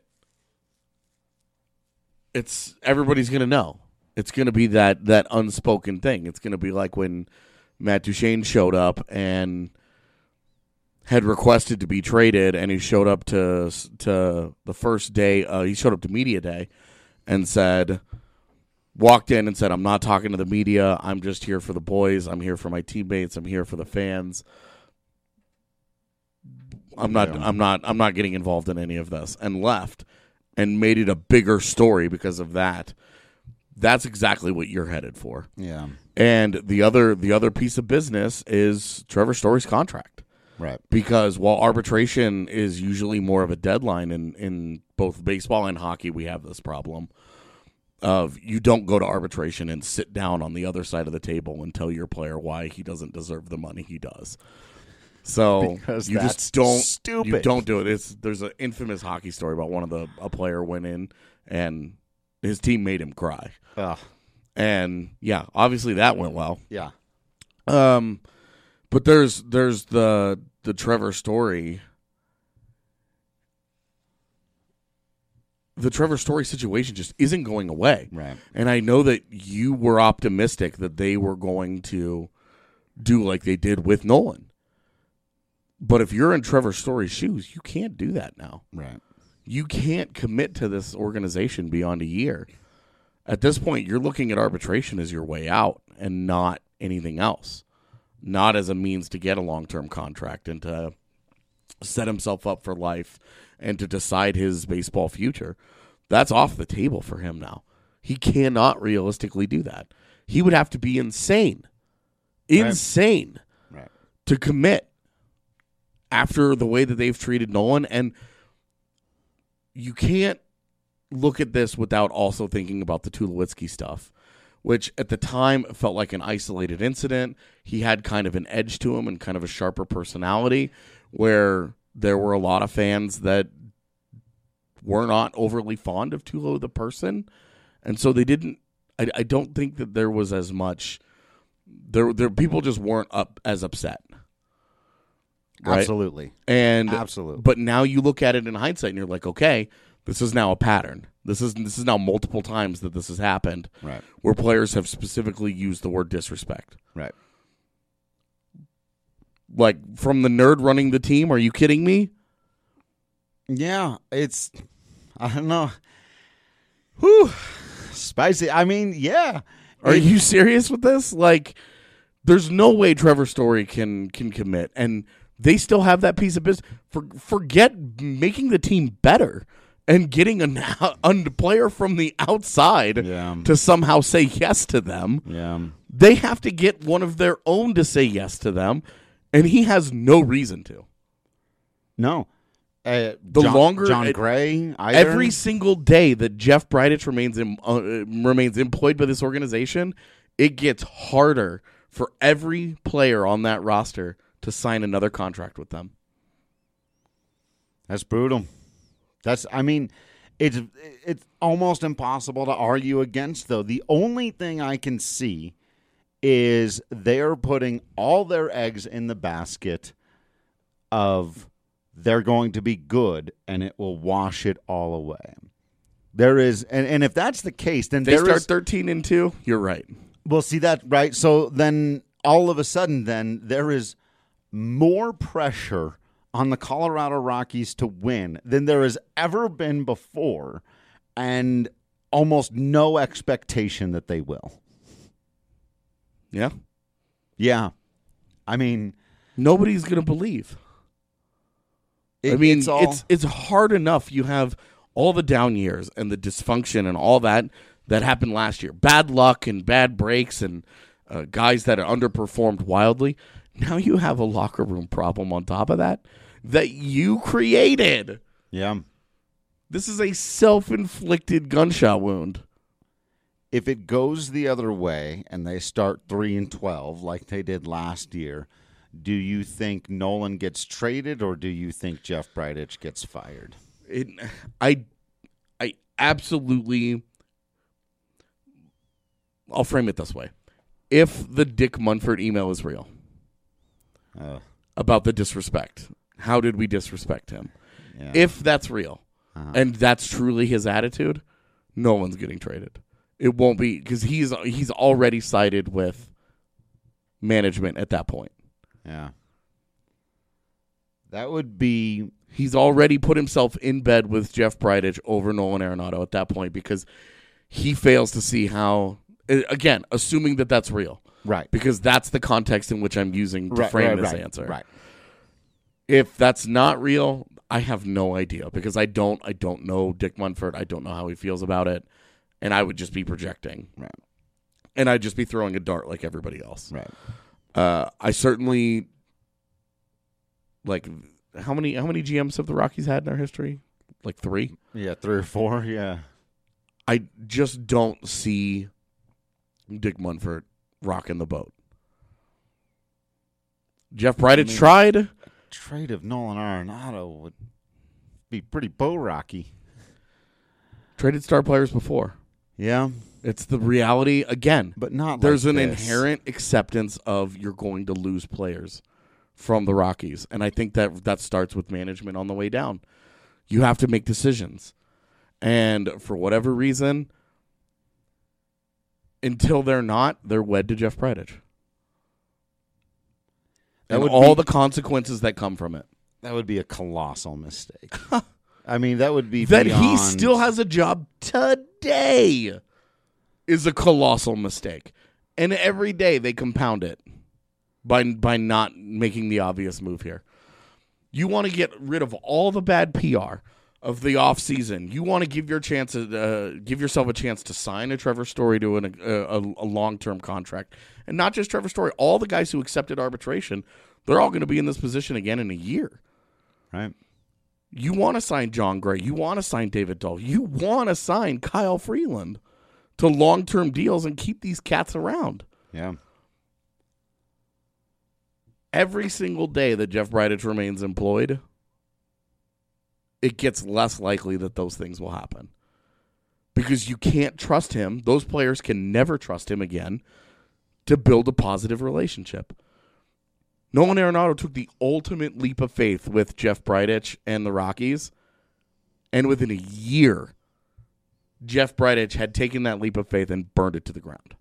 Speaker 7: it's everybody's going to know. It's going to be that that unspoken thing. It's going to be like when Matt Duchene showed up and had requested to be traded, and he showed up to to the first day. Uh, he showed up to media day and said, walked in and said, "I'm not talking to the media. I'm just here for the boys. I'm here for my teammates. I'm here for the fans. I'm not.
Speaker 6: Yeah.
Speaker 7: I'm not. I'm not getting involved in any of this." And left, and made it a bigger story because of that. That's exactly what you're headed for.
Speaker 6: Yeah.
Speaker 7: And the other the other piece of business is Trevor Story's contract.
Speaker 6: Right.
Speaker 7: Because while arbitration is usually more of a deadline in, in both baseball and hockey, we have this problem of you don't go to arbitration and sit down on the other side of the table and tell your player why he doesn't deserve the money he does. So
Speaker 6: Because
Speaker 7: you
Speaker 6: that's
Speaker 7: just don't
Speaker 6: stupid.
Speaker 7: You don't do it. It's there's an infamous hockey story about one of the a player went in and his team made him cry.
Speaker 6: Ugh.
Speaker 7: And yeah, obviously that went well.
Speaker 6: Yeah.
Speaker 7: Um, but there's there's the the Trevor Story. The Trevor Story situation just isn't going away.
Speaker 6: Right.
Speaker 7: And I know that you were optimistic that they were going to do like they did with Nolan. But if you're in Trevor Story's shoes, you can't do that now.
Speaker 6: Right.
Speaker 7: You can't commit to this organization beyond a year. At this point, you're looking at arbitration as your way out and not anything else. Not as a means to get a long-term contract and to set himself up for life and to decide his baseball future. That's off the table for him now. He cannot realistically do that. He would have to be insane. Insane
Speaker 6: Right.
Speaker 7: to commit after the way that they've treated Nolan. And you can't look at this without also thinking about the Tulowitzki stuff, which at the time felt like an isolated incident. He had kind of an edge to him and kind of a sharper personality where there were a lot of fans that were not overly fond of Tulo the person. And so they didn't, I, I don't think that there was as much, there, there people just weren't up as upset. Right?
Speaker 6: Absolutely.
Speaker 7: And
Speaker 6: Absolutely.
Speaker 7: But now you look at it in hindsight and you're like, okay, this is now a pattern. This is this is now multiple times that this has happened.
Speaker 6: Right.
Speaker 7: Where players have specifically used the word disrespect.
Speaker 6: Right.
Speaker 7: Like from the nerd running the team, are you kidding me?
Speaker 6: Yeah, it's I don't know. Whew. Spicy. I mean, yeah.
Speaker 7: Are
Speaker 6: It-
Speaker 7: you serious with this? Like there's no way Trevor Story can can commit, and they still have that piece of business. For, forget making the team better and getting a, a player from the outside
Speaker 6: Yeah.
Speaker 7: to somehow say yes to them.
Speaker 6: Yeah.
Speaker 7: They have to get one of their own to say yes to them, and he has no reason to.
Speaker 6: No. Uh,
Speaker 7: The
Speaker 6: John,
Speaker 7: longer
Speaker 6: John
Speaker 7: it-
Speaker 6: Gray, either?
Speaker 7: Every single day that Jeff Bridich remains in, uh, remains employed by this organization, it gets harder for every player on that roster to sign another contract with them.
Speaker 6: That's brutal. That's, I mean, it's it's almost impossible to argue against, though. The only thing I can see is they're putting all their eggs in the basket of they're going to be good and it will wash it all away. There is, and, and if that's the case, then
Speaker 7: they
Speaker 6: there
Speaker 7: start
Speaker 6: is,
Speaker 7: thirteen and two. You're right.
Speaker 6: Well, see that, right? So then all of a sudden, then there is more pressure on the Colorado Rockies to win than there has ever been before, and almost no expectation that they will.
Speaker 7: Yeah.
Speaker 6: Yeah. I mean,
Speaker 7: nobody's going to believe.
Speaker 6: It,
Speaker 7: I mean,
Speaker 6: it's, all...
Speaker 7: it's it's hard enough. You have all the down years and the dysfunction and all that that happened last year. Bad luck and bad breaks and uh, guys that are underperformed wildly. Now you have a locker room problem on top of that that you created.
Speaker 6: Yeah.
Speaker 7: This is a self-inflicted gunshot wound.
Speaker 6: If it goes the other way and they start three and twelve like they did last year, do you think Nolan gets traded or do you think Jeff Bridich gets fired?
Speaker 7: It, I, I absolutely. I'll frame it this way: if the Dick Munford email is real
Speaker 6: uh,
Speaker 7: about the disrespect, how did we disrespect him?
Speaker 6: Yeah.
Speaker 7: If that's real uh-huh. and that's truly his attitude, no one's getting traded. It won't be because he's he's already sided with management at that point.
Speaker 6: Yeah. That would be...
Speaker 7: He's already put himself in bed with Jeff Bridich over Nolan Arenado at that point because he fails to see how... Again, assuming that that's real.
Speaker 6: Right.
Speaker 7: Because that's the context in which I'm using to
Speaker 6: right,
Speaker 7: frame
Speaker 6: right,
Speaker 7: this
Speaker 6: right,
Speaker 7: answer.
Speaker 6: Right.
Speaker 7: If that's not real, I have no idea because I don't I don't know Dick Munford. I don't know how he feels about it. And I would just be projecting.
Speaker 6: Right.
Speaker 7: And I'd just be throwing a dart like everybody else.
Speaker 6: Right.
Speaker 7: Uh, I certainly like how many how many G Ms have the Rockies had in their history? Like three?
Speaker 6: Yeah, three or four, yeah.
Speaker 7: I just don't see Dick Munford rocking the boat. Jeff Bridich I mean, tried.
Speaker 6: A trade of Nolan Arenado would be pretty bow rocky.
Speaker 7: Traded star players before.
Speaker 6: Yeah.
Speaker 7: It's the reality again.
Speaker 6: But not
Speaker 7: There's
Speaker 6: like
Speaker 7: an
Speaker 6: this.
Speaker 7: inherent acceptance of you're going to lose players from the Rockies. And I think that that starts with management on the way down. You have to make decisions. And for whatever reason, until they're not, they're wed to Jeff Bridich.
Speaker 6: That
Speaker 7: and
Speaker 6: would
Speaker 7: all
Speaker 6: be,
Speaker 7: the consequences that come from it.
Speaker 6: That would be a colossal mistake. I mean, that would be
Speaker 7: that
Speaker 6: beyond...
Speaker 7: he still has a job today is a colossal mistake. And every day they compound it by by not making the obvious move here. You want to get rid of all the bad P R of the offseason. You want to give your chance uh, give yourself a chance to sign a Trevor Story to an, a, a long-term contract. And not just Trevor Story. All the guys who accepted arbitration, they're all going to be in this position again in a year.
Speaker 6: Right.
Speaker 7: You want to sign John Gray. You want to sign David Dahl. You want to sign Kyle Freeland to long-term deals and keep these cats around.
Speaker 6: Yeah.
Speaker 7: Every single day that Jeff Bridich remains employed, it gets less likely that those things will happen. Because you can't trust him. Those players can never trust him again to build a positive relationship. Nolan Arenado took the ultimate leap of faith with Jeff Bridich and the Rockies, and within a year, Jeff Bridich had taken that leap of faith and burned it to the ground.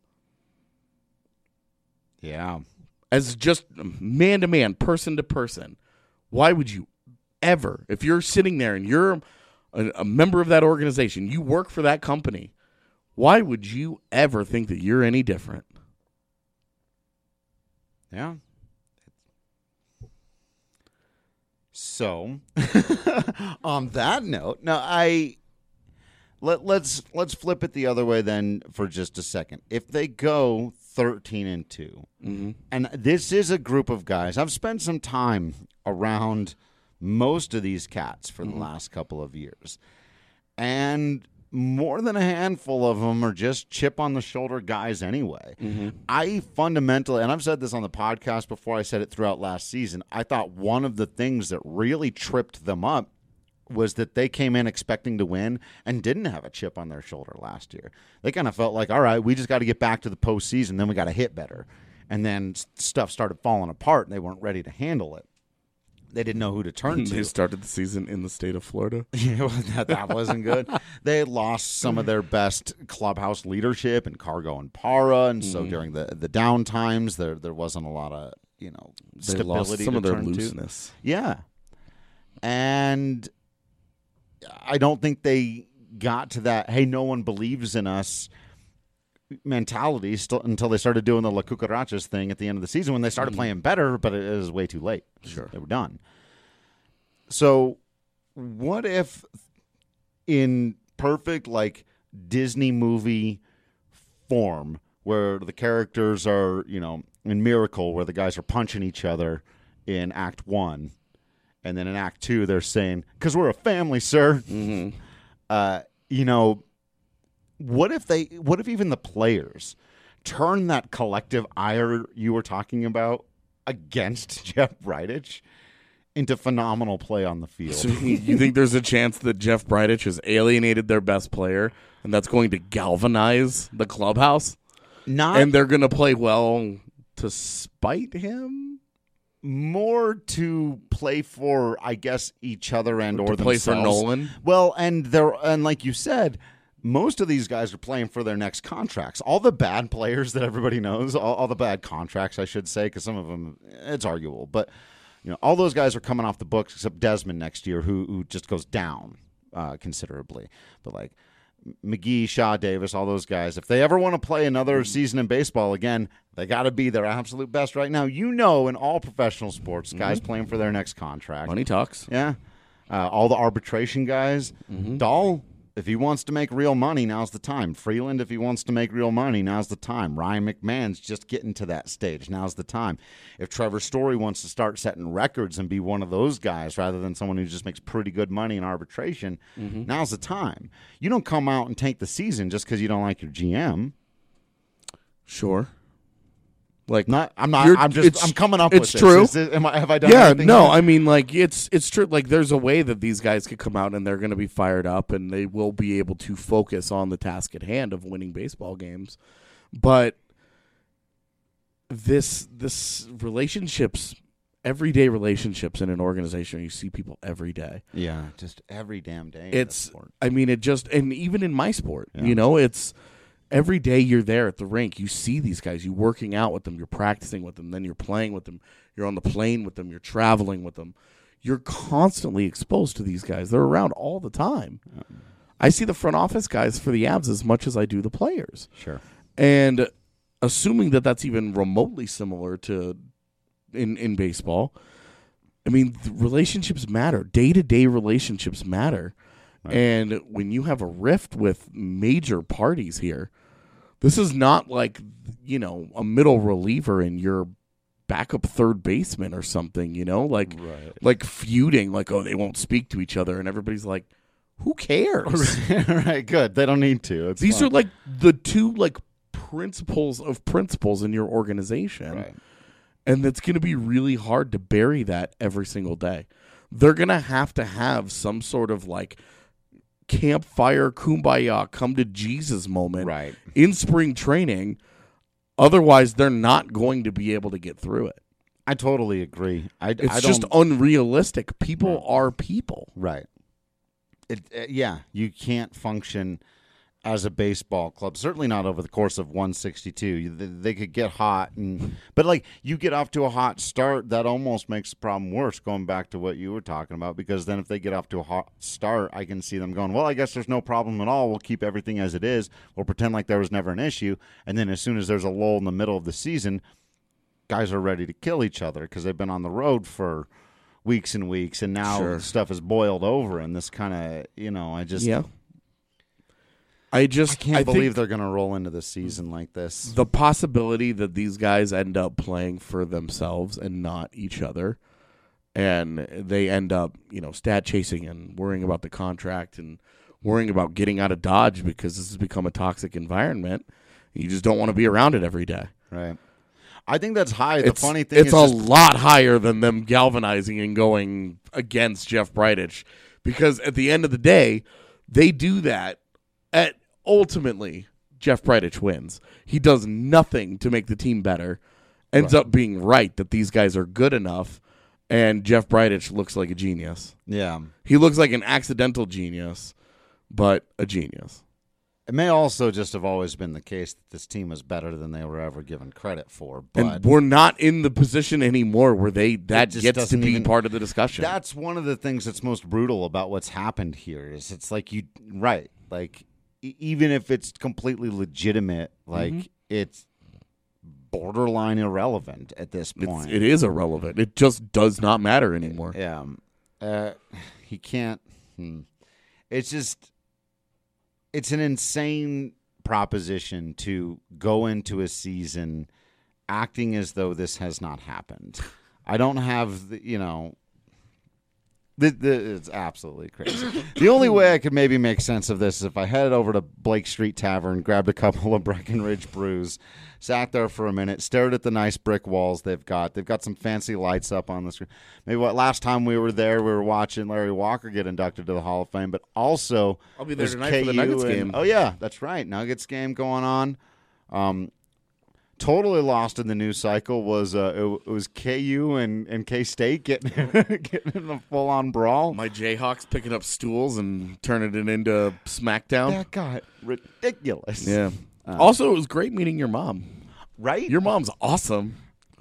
Speaker 6: Yeah.
Speaker 7: As just man-to-man, person-to-person, why would you ever, if you're sitting there and you're a, a member of that organization, you work for that company, why would you ever think that you're any different?
Speaker 6: Yeah. So, on that note, now I let let's let's flip it the other way then for just a second. If they go thirteen and two,
Speaker 7: mm-hmm.
Speaker 6: and this is a group of guys, I've spent some time around most of these cats for
Speaker 7: mm-hmm.
Speaker 6: the last couple of years, and more than a handful of them are just chip on the shoulder guys anyway.
Speaker 7: Mm-hmm.
Speaker 6: I fundamentally, and I've said this on the podcast before, I said it throughout last season, I thought one of the things that really tripped them up was that they came in expecting to win and didn't have a chip on their shoulder last year. They kind of felt like, all right, we just got to get back to the postseason, then we got to hit better. And then stuff started falling apart, and they weren't ready to handle it. They didn't know who to turn to.
Speaker 7: They started the season in the state of Florida.
Speaker 6: Yeah, well, that, that wasn't good. They lost some of their best clubhouse leadership in Cargo and Para, and so mm. during the the down times, there there wasn't a lot of you know
Speaker 7: they
Speaker 6: stability.
Speaker 7: Lost some
Speaker 6: to
Speaker 7: of their
Speaker 6: turn
Speaker 7: looseness.
Speaker 6: To. Yeah, and I don't think they got to that. Hey, no one believes in us mentality still until they started doing the La Cucarachas thing at the end of the season when they started mm. playing better, but it was way too late.
Speaker 7: Sure.
Speaker 6: They were done. So what if in perfect like Disney movie form where the characters are, you know, in Miracle where the guys are punching each other in act one and then in act two they're saying, because we're a family, sir.
Speaker 7: Mm-hmm.
Speaker 6: Uh, you know, What if they? What if even the players turn that collective ire you were talking about against Jeff Bridich into phenomenal play on the field?
Speaker 7: So you think there's a chance that Jeff Bridich has alienated their best player, and that's going to galvanize the clubhouse?
Speaker 6: Not,
Speaker 7: and they're going to play well to spite him.
Speaker 6: More to play for, I guess, each other and or,
Speaker 7: or to
Speaker 6: themselves.
Speaker 7: Play for Nolan.
Speaker 6: Well, and they're and like you said. Most of these guys are playing for their next contracts. All the bad players that everybody knows, all, all the bad contracts, I should say, because some of them, it's arguable. But, you know, all those guys are coming off the books except Desmond next year, who who just goes down uh, considerably. But, like, McGee, Shaw, Davis, all those guys, if they ever want to play another season in baseball again, they got to be their absolute best right now. You know, in all professional sports, guys mm-hmm. playing for their next contract.
Speaker 7: Money talks.
Speaker 6: Yeah. Uh, all the arbitration guys. Mm-hmm. Dahl. If he wants to make real money, now's the time. Freeland, if he wants to make real money, now's the time. Ryan McMahon's just getting to that stage. Now's the time. If Trevor Story wants to start setting records and be one of those guys rather than someone who just makes pretty good money in arbitration, mm-hmm. now's the time. You don't come out and tank the season just because you don't like your G M.
Speaker 7: Sure. Like
Speaker 6: not, I'm not. I'm just. I'm coming up
Speaker 7: it's
Speaker 6: with
Speaker 7: true.
Speaker 6: this. Is it, am I, have I done?
Speaker 7: Yeah.
Speaker 6: anything
Speaker 7: No.
Speaker 6: yet?
Speaker 7: I mean, like it's it's true. Like there's a way that these guys could come out and they're going to be fired up and they will be able to focus on the task at hand of winning baseball games. But this this relationships, everyday relationships in an organization, you see people every day.
Speaker 6: Yeah, just every damn day.
Speaker 7: It's. I mean, it just and even in my sport,
Speaker 6: yeah.
Speaker 7: you know, it's. Every day you're there at the rink, you see these guys, you're working out with them, you're practicing with them, then you're playing with them, you're on the plane with them, you're traveling with them. You're constantly exposed to these guys. They're around all the time. Yeah. I see the front office guys for the Avs as much as I do the players.
Speaker 6: Sure.
Speaker 7: And assuming that that's even remotely similar to in, in baseball, I mean, the relationships matter. Day-to-day relationships matter. Right. And when you have a rift with major parties here, this is not like, you know, a middle reliever and your backup third baseman or something, you know, like
Speaker 6: right.
Speaker 7: like feuding, like, oh, they won't speak to each other. And everybody's like, who cares?
Speaker 6: Right, good. They don't need to. It's
Speaker 7: These
Speaker 6: fun.
Speaker 7: are like the two like principles of principles in your organization.
Speaker 6: Right.
Speaker 7: And it's going to be really hard to bury that every single day. They're going to have to have some sort of like campfire, kumbaya, come to Jesus moment
Speaker 6: right.
Speaker 7: in spring training. Otherwise, they're not going to be able to get through it.
Speaker 6: I totally agree. I,
Speaker 7: it's
Speaker 6: I
Speaker 7: just unrealistic. People
Speaker 6: right.
Speaker 7: are people.
Speaker 6: Right. It, uh, yeah, you can't function as a baseball club. Certainly not over the course of one sixty-two. You, they, they could get hot, and but like you get off to a hot start, that almost makes the problem worse. Going back to what you were talking about, because then if they get off to a hot start, I can see them going, well, I guess there's no problem at all. We'll keep everything as it is. We'll pretend like there was never an issue. And then as soon as there's a lull in the middle of the season, guys are ready to kill each other because they've been on the road for weeks and weeks, and now
Speaker 7: sure.
Speaker 6: stuff is boiled over. And this kind of, you know, I just
Speaker 7: yeah. I just
Speaker 6: I can't
Speaker 7: I
Speaker 6: believe they're going to roll into the season like this.
Speaker 7: The possibility that these guys end up playing for themselves and not each other, and they end up, you know, stat chasing and worrying about the contract and worrying about getting out of Dodge because this has become a toxic environment. You just don't want to be around it every day.
Speaker 6: Right. I think that's high. The
Speaker 7: it's,
Speaker 6: funny thing
Speaker 7: it's
Speaker 6: is
Speaker 7: a
Speaker 6: just,
Speaker 7: lot higher than them galvanizing and going against Jeff Bridich because at the end of the day, they do that. At ultimately, Jeff Bridich wins. He does nothing to make the team better. Ends
Speaker 6: Right.
Speaker 7: up being right that these guys are good enough, and Jeff Bridich looks like a genius.
Speaker 6: Yeah.
Speaker 7: He looks like an accidental genius, but a genius.
Speaker 6: It may also just have always been the case that this team was better than they were ever given credit for. But
Speaker 7: And we're not in the position anymore where they that
Speaker 6: just
Speaker 7: gets to
Speaker 6: doesn't
Speaker 7: be
Speaker 6: even-
Speaker 7: part of the discussion.
Speaker 6: that's one of the things that's most brutal about what's happened here is it's like you right like e- even if it's completely legitimate, like
Speaker 7: Mm-hmm.
Speaker 6: it's borderline irrelevant at this
Speaker 7: It's,
Speaker 6: point.
Speaker 7: it is irrelevant. It just does not matter anymore.
Speaker 6: Yeah, um, uh, he can't. Hmm. It's just it's an insane proposition to go into a season acting as though this has not happened. I don't have the, you know. The, the, it's absolutely crazy. The only way I could maybe make sense of this is if I headed over to Blake Street Tavern, grabbed a couple of Breckenridge brews, sat there for a minute, stared at the nice brick walls they've got. They've got some fancy lights up on the screen. Maybe what last time we were there, we were watching Larry Walker get inducted to the Hall of Fame, but also
Speaker 7: I'll be there
Speaker 6: there's
Speaker 7: tonight for the
Speaker 6: K U
Speaker 7: Nuggets
Speaker 6: and-
Speaker 7: game.
Speaker 6: Oh yeah, that's right, Nuggets game going on. Um, totally lost in the news cycle was uh, it, it was K U and, and K State getting getting in a full on brawl.
Speaker 7: My Jayhawks picking up stools and turning it into SmackDown.
Speaker 6: That got ridiculous.
Speaker 7: Yeah.
Speaker 6: Uh,
Speaker 7: also, it was great meeting your mom.
Speaker 6: Right?
Speaker 7: Your mom's awesome.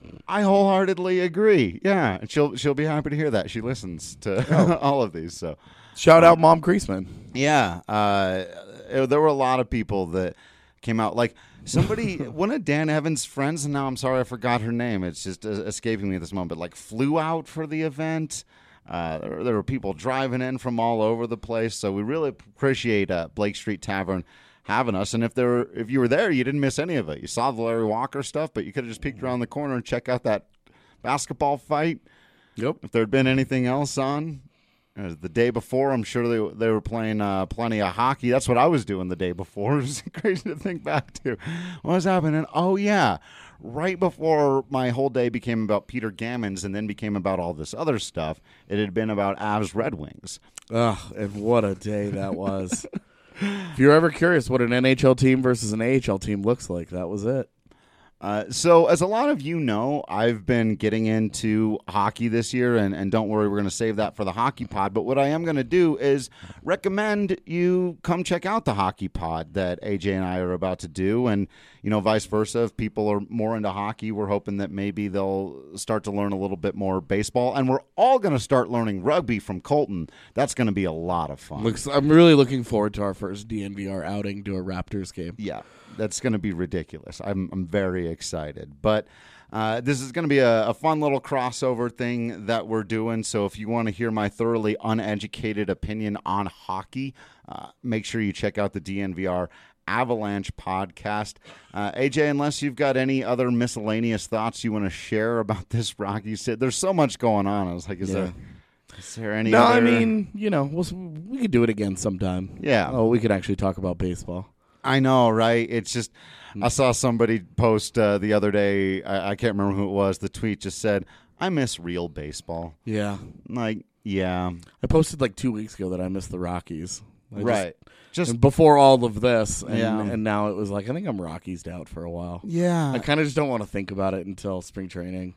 Speaker 6: I wholeheartedly agree. Yeah, and she'll she'll be happy to hear that. She listens to all of these. So
Speaker 7: Shout out Mom Creasman.
Speaker 6: yeah, uh, there were a lot of people that came out. Like somebody, one of Dan Evans' friends, and now I'm sorry I forgot her name. It's just uh, escaping me at this moment. But like flew out for the event. Uh, there, there were people driving in from all over the place. So we really appreciate uh, Blake Street Tavern having us. And if there were, if you were there, you didn't miss any of it. You saw the Larry Walker stuff, but you could have just peeked around the corner and check out that basketball fight.
Speaker 7: Yep.
Speaker 6: If there had been anything else on uh, the day before, I'm sure they they were playing uh, plenty of hockey. That's what I was doing the day before. It was crazy to think back to what was happening. Oh yeah, right before my whole day became about Peter Gammons and then became about all this other stuff, it had been about Avs Red Wings.
Speaker 7: Ugh, and what a day that was. If you're ever curious what an N H L team versus an A H L team looks like, that was it.
Speaker 6: Uh, so, as a lot of you know, I've been getting into hockey this year, and, and don't worry, we're going to save that for the Hockey Pod. But what I am going to do is recommend you come check out the Hockey Pod that A J and I are about to do, and, you know, vice versa. If people are more into hockey, we're hoping that maybe they'll start to learn a little bit more baseball, and we're all going to start learning rugby from Colton. That's going to be a lot of fun.
Speaker 7: Looks, I'm really looking forward to our first D N V R outing to a Raptors game.
Speaker 6: Yeah, that's going to be ridiculous. I'm I'm very excited. But uh, this is going to be a, a fun little crossover thing that we're doing. So if you want to hear my thoroughly uneducated opinion on hockey, uh, make sure you check out the D N V R Avalanche podcast. Uh, A J, unless you've got any other miscellaneous thoughts you want to share about this Rocky sit, there's so much going on. I was like, is
Speaker 7: Yeah.
Speaker 6: there is there any?
Speaker 7: No,
Speaker 6: other...
Speaker 7: I mean, you know, we'll, we could do it again sometime.
Speaker 6: Yeah.
Speaker 7: Oh, we could actually talk about baseball.
Speaker 6: I know, right? It's just, I saw somebody post uh, the other day, I, I can't remember who it was, the tweet just said, I miss real baseball.
Speaker 7: Yeah.
Speaker 6: Like, yeah.
Speaker 7: I posted like two weeks ago that I missed the Rockies. I just-
Speaker 6: right. Just,
Speaker 7: and before all of this, and,
Speaker 6: Yeah.
Speaker 7: and now it was like, I think I'm Rockies out for a while.
Speaker 6: yeah.
Speaker 7: I kind of just don't want to think about it until spring training.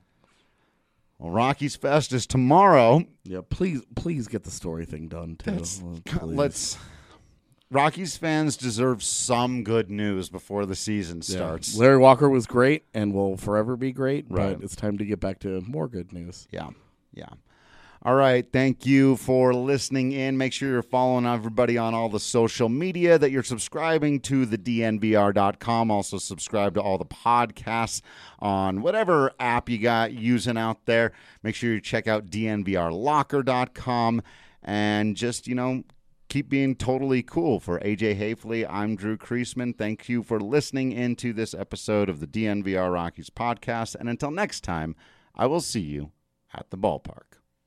Speaker 6: Well, Rockies Fest is tomorrow.
Speaker 7: Yeah, please, please get the story thing done too.
Speaker 6: That's-
Speaker 7: Please.
Speaker 6: Let's, Rockies fans deserve some good news before the season
Speaker 7: Yeah.
Speaker 6: starts.
Speaker 7: Larry Walker was great and will forever be great,
Speaker 6: Right.
Speaker 7: but it's time to get back to more good news.
Speaker 6: Yeah, yeah. All right, thank you for listening in. Make sure you're following everybody on all the social media, that you're subscribing to the D N V R dot com. Also subscribe to all the podcasts on whatever app you got using out there. Make sure you check out D N V R locker dot com and just, you know, keep being totally cool. For A J Hafley, I'm Drew Creasman. Thank you for listening into this episode of the D N V R Rockies podcast. And until next time, I will see you at the ballpark.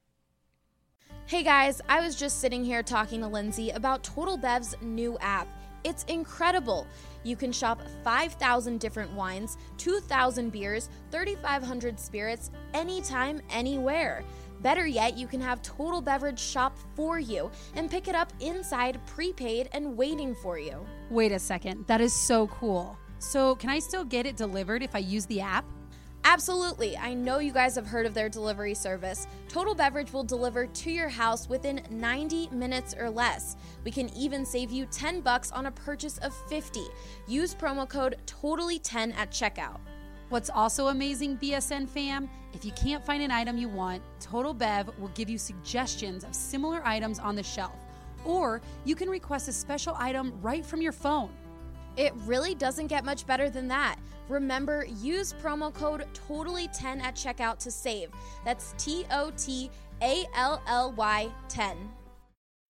Speaker 1: Hey guys, I was just sitting here talking to Lindsay about Total Bev's new app. It's incredible. You can shop five thousand different wines, two thousand beers, thirty-five hundred spirits, anytime, anywhere. Better yet, you can have Total Beverage shop for you and pick it up inside, prepaid, and waiting for you.
Speaker 8: Wait a second, that is so cool. So can I still get it delivered if I use the app?
Speaker 1: Absolutely. I know you guys have heard of their delivery service. Total Beverage will deliver to your house within ninety minutes or less. We can even save you ten bucks on a purchase of fifty. Use promo code totally ten at checkout.
Speaker 8: What's also amazing, B S N fam, if you can't find an item you want, Total Bev will give you suggestions of similar items on the shelf. Or you can request a special item right from your phone.
Speaker 1: It really doesn't get much better than that. Remember, use promo code totally ten at checkout to save. That's T O T A L L Y ten.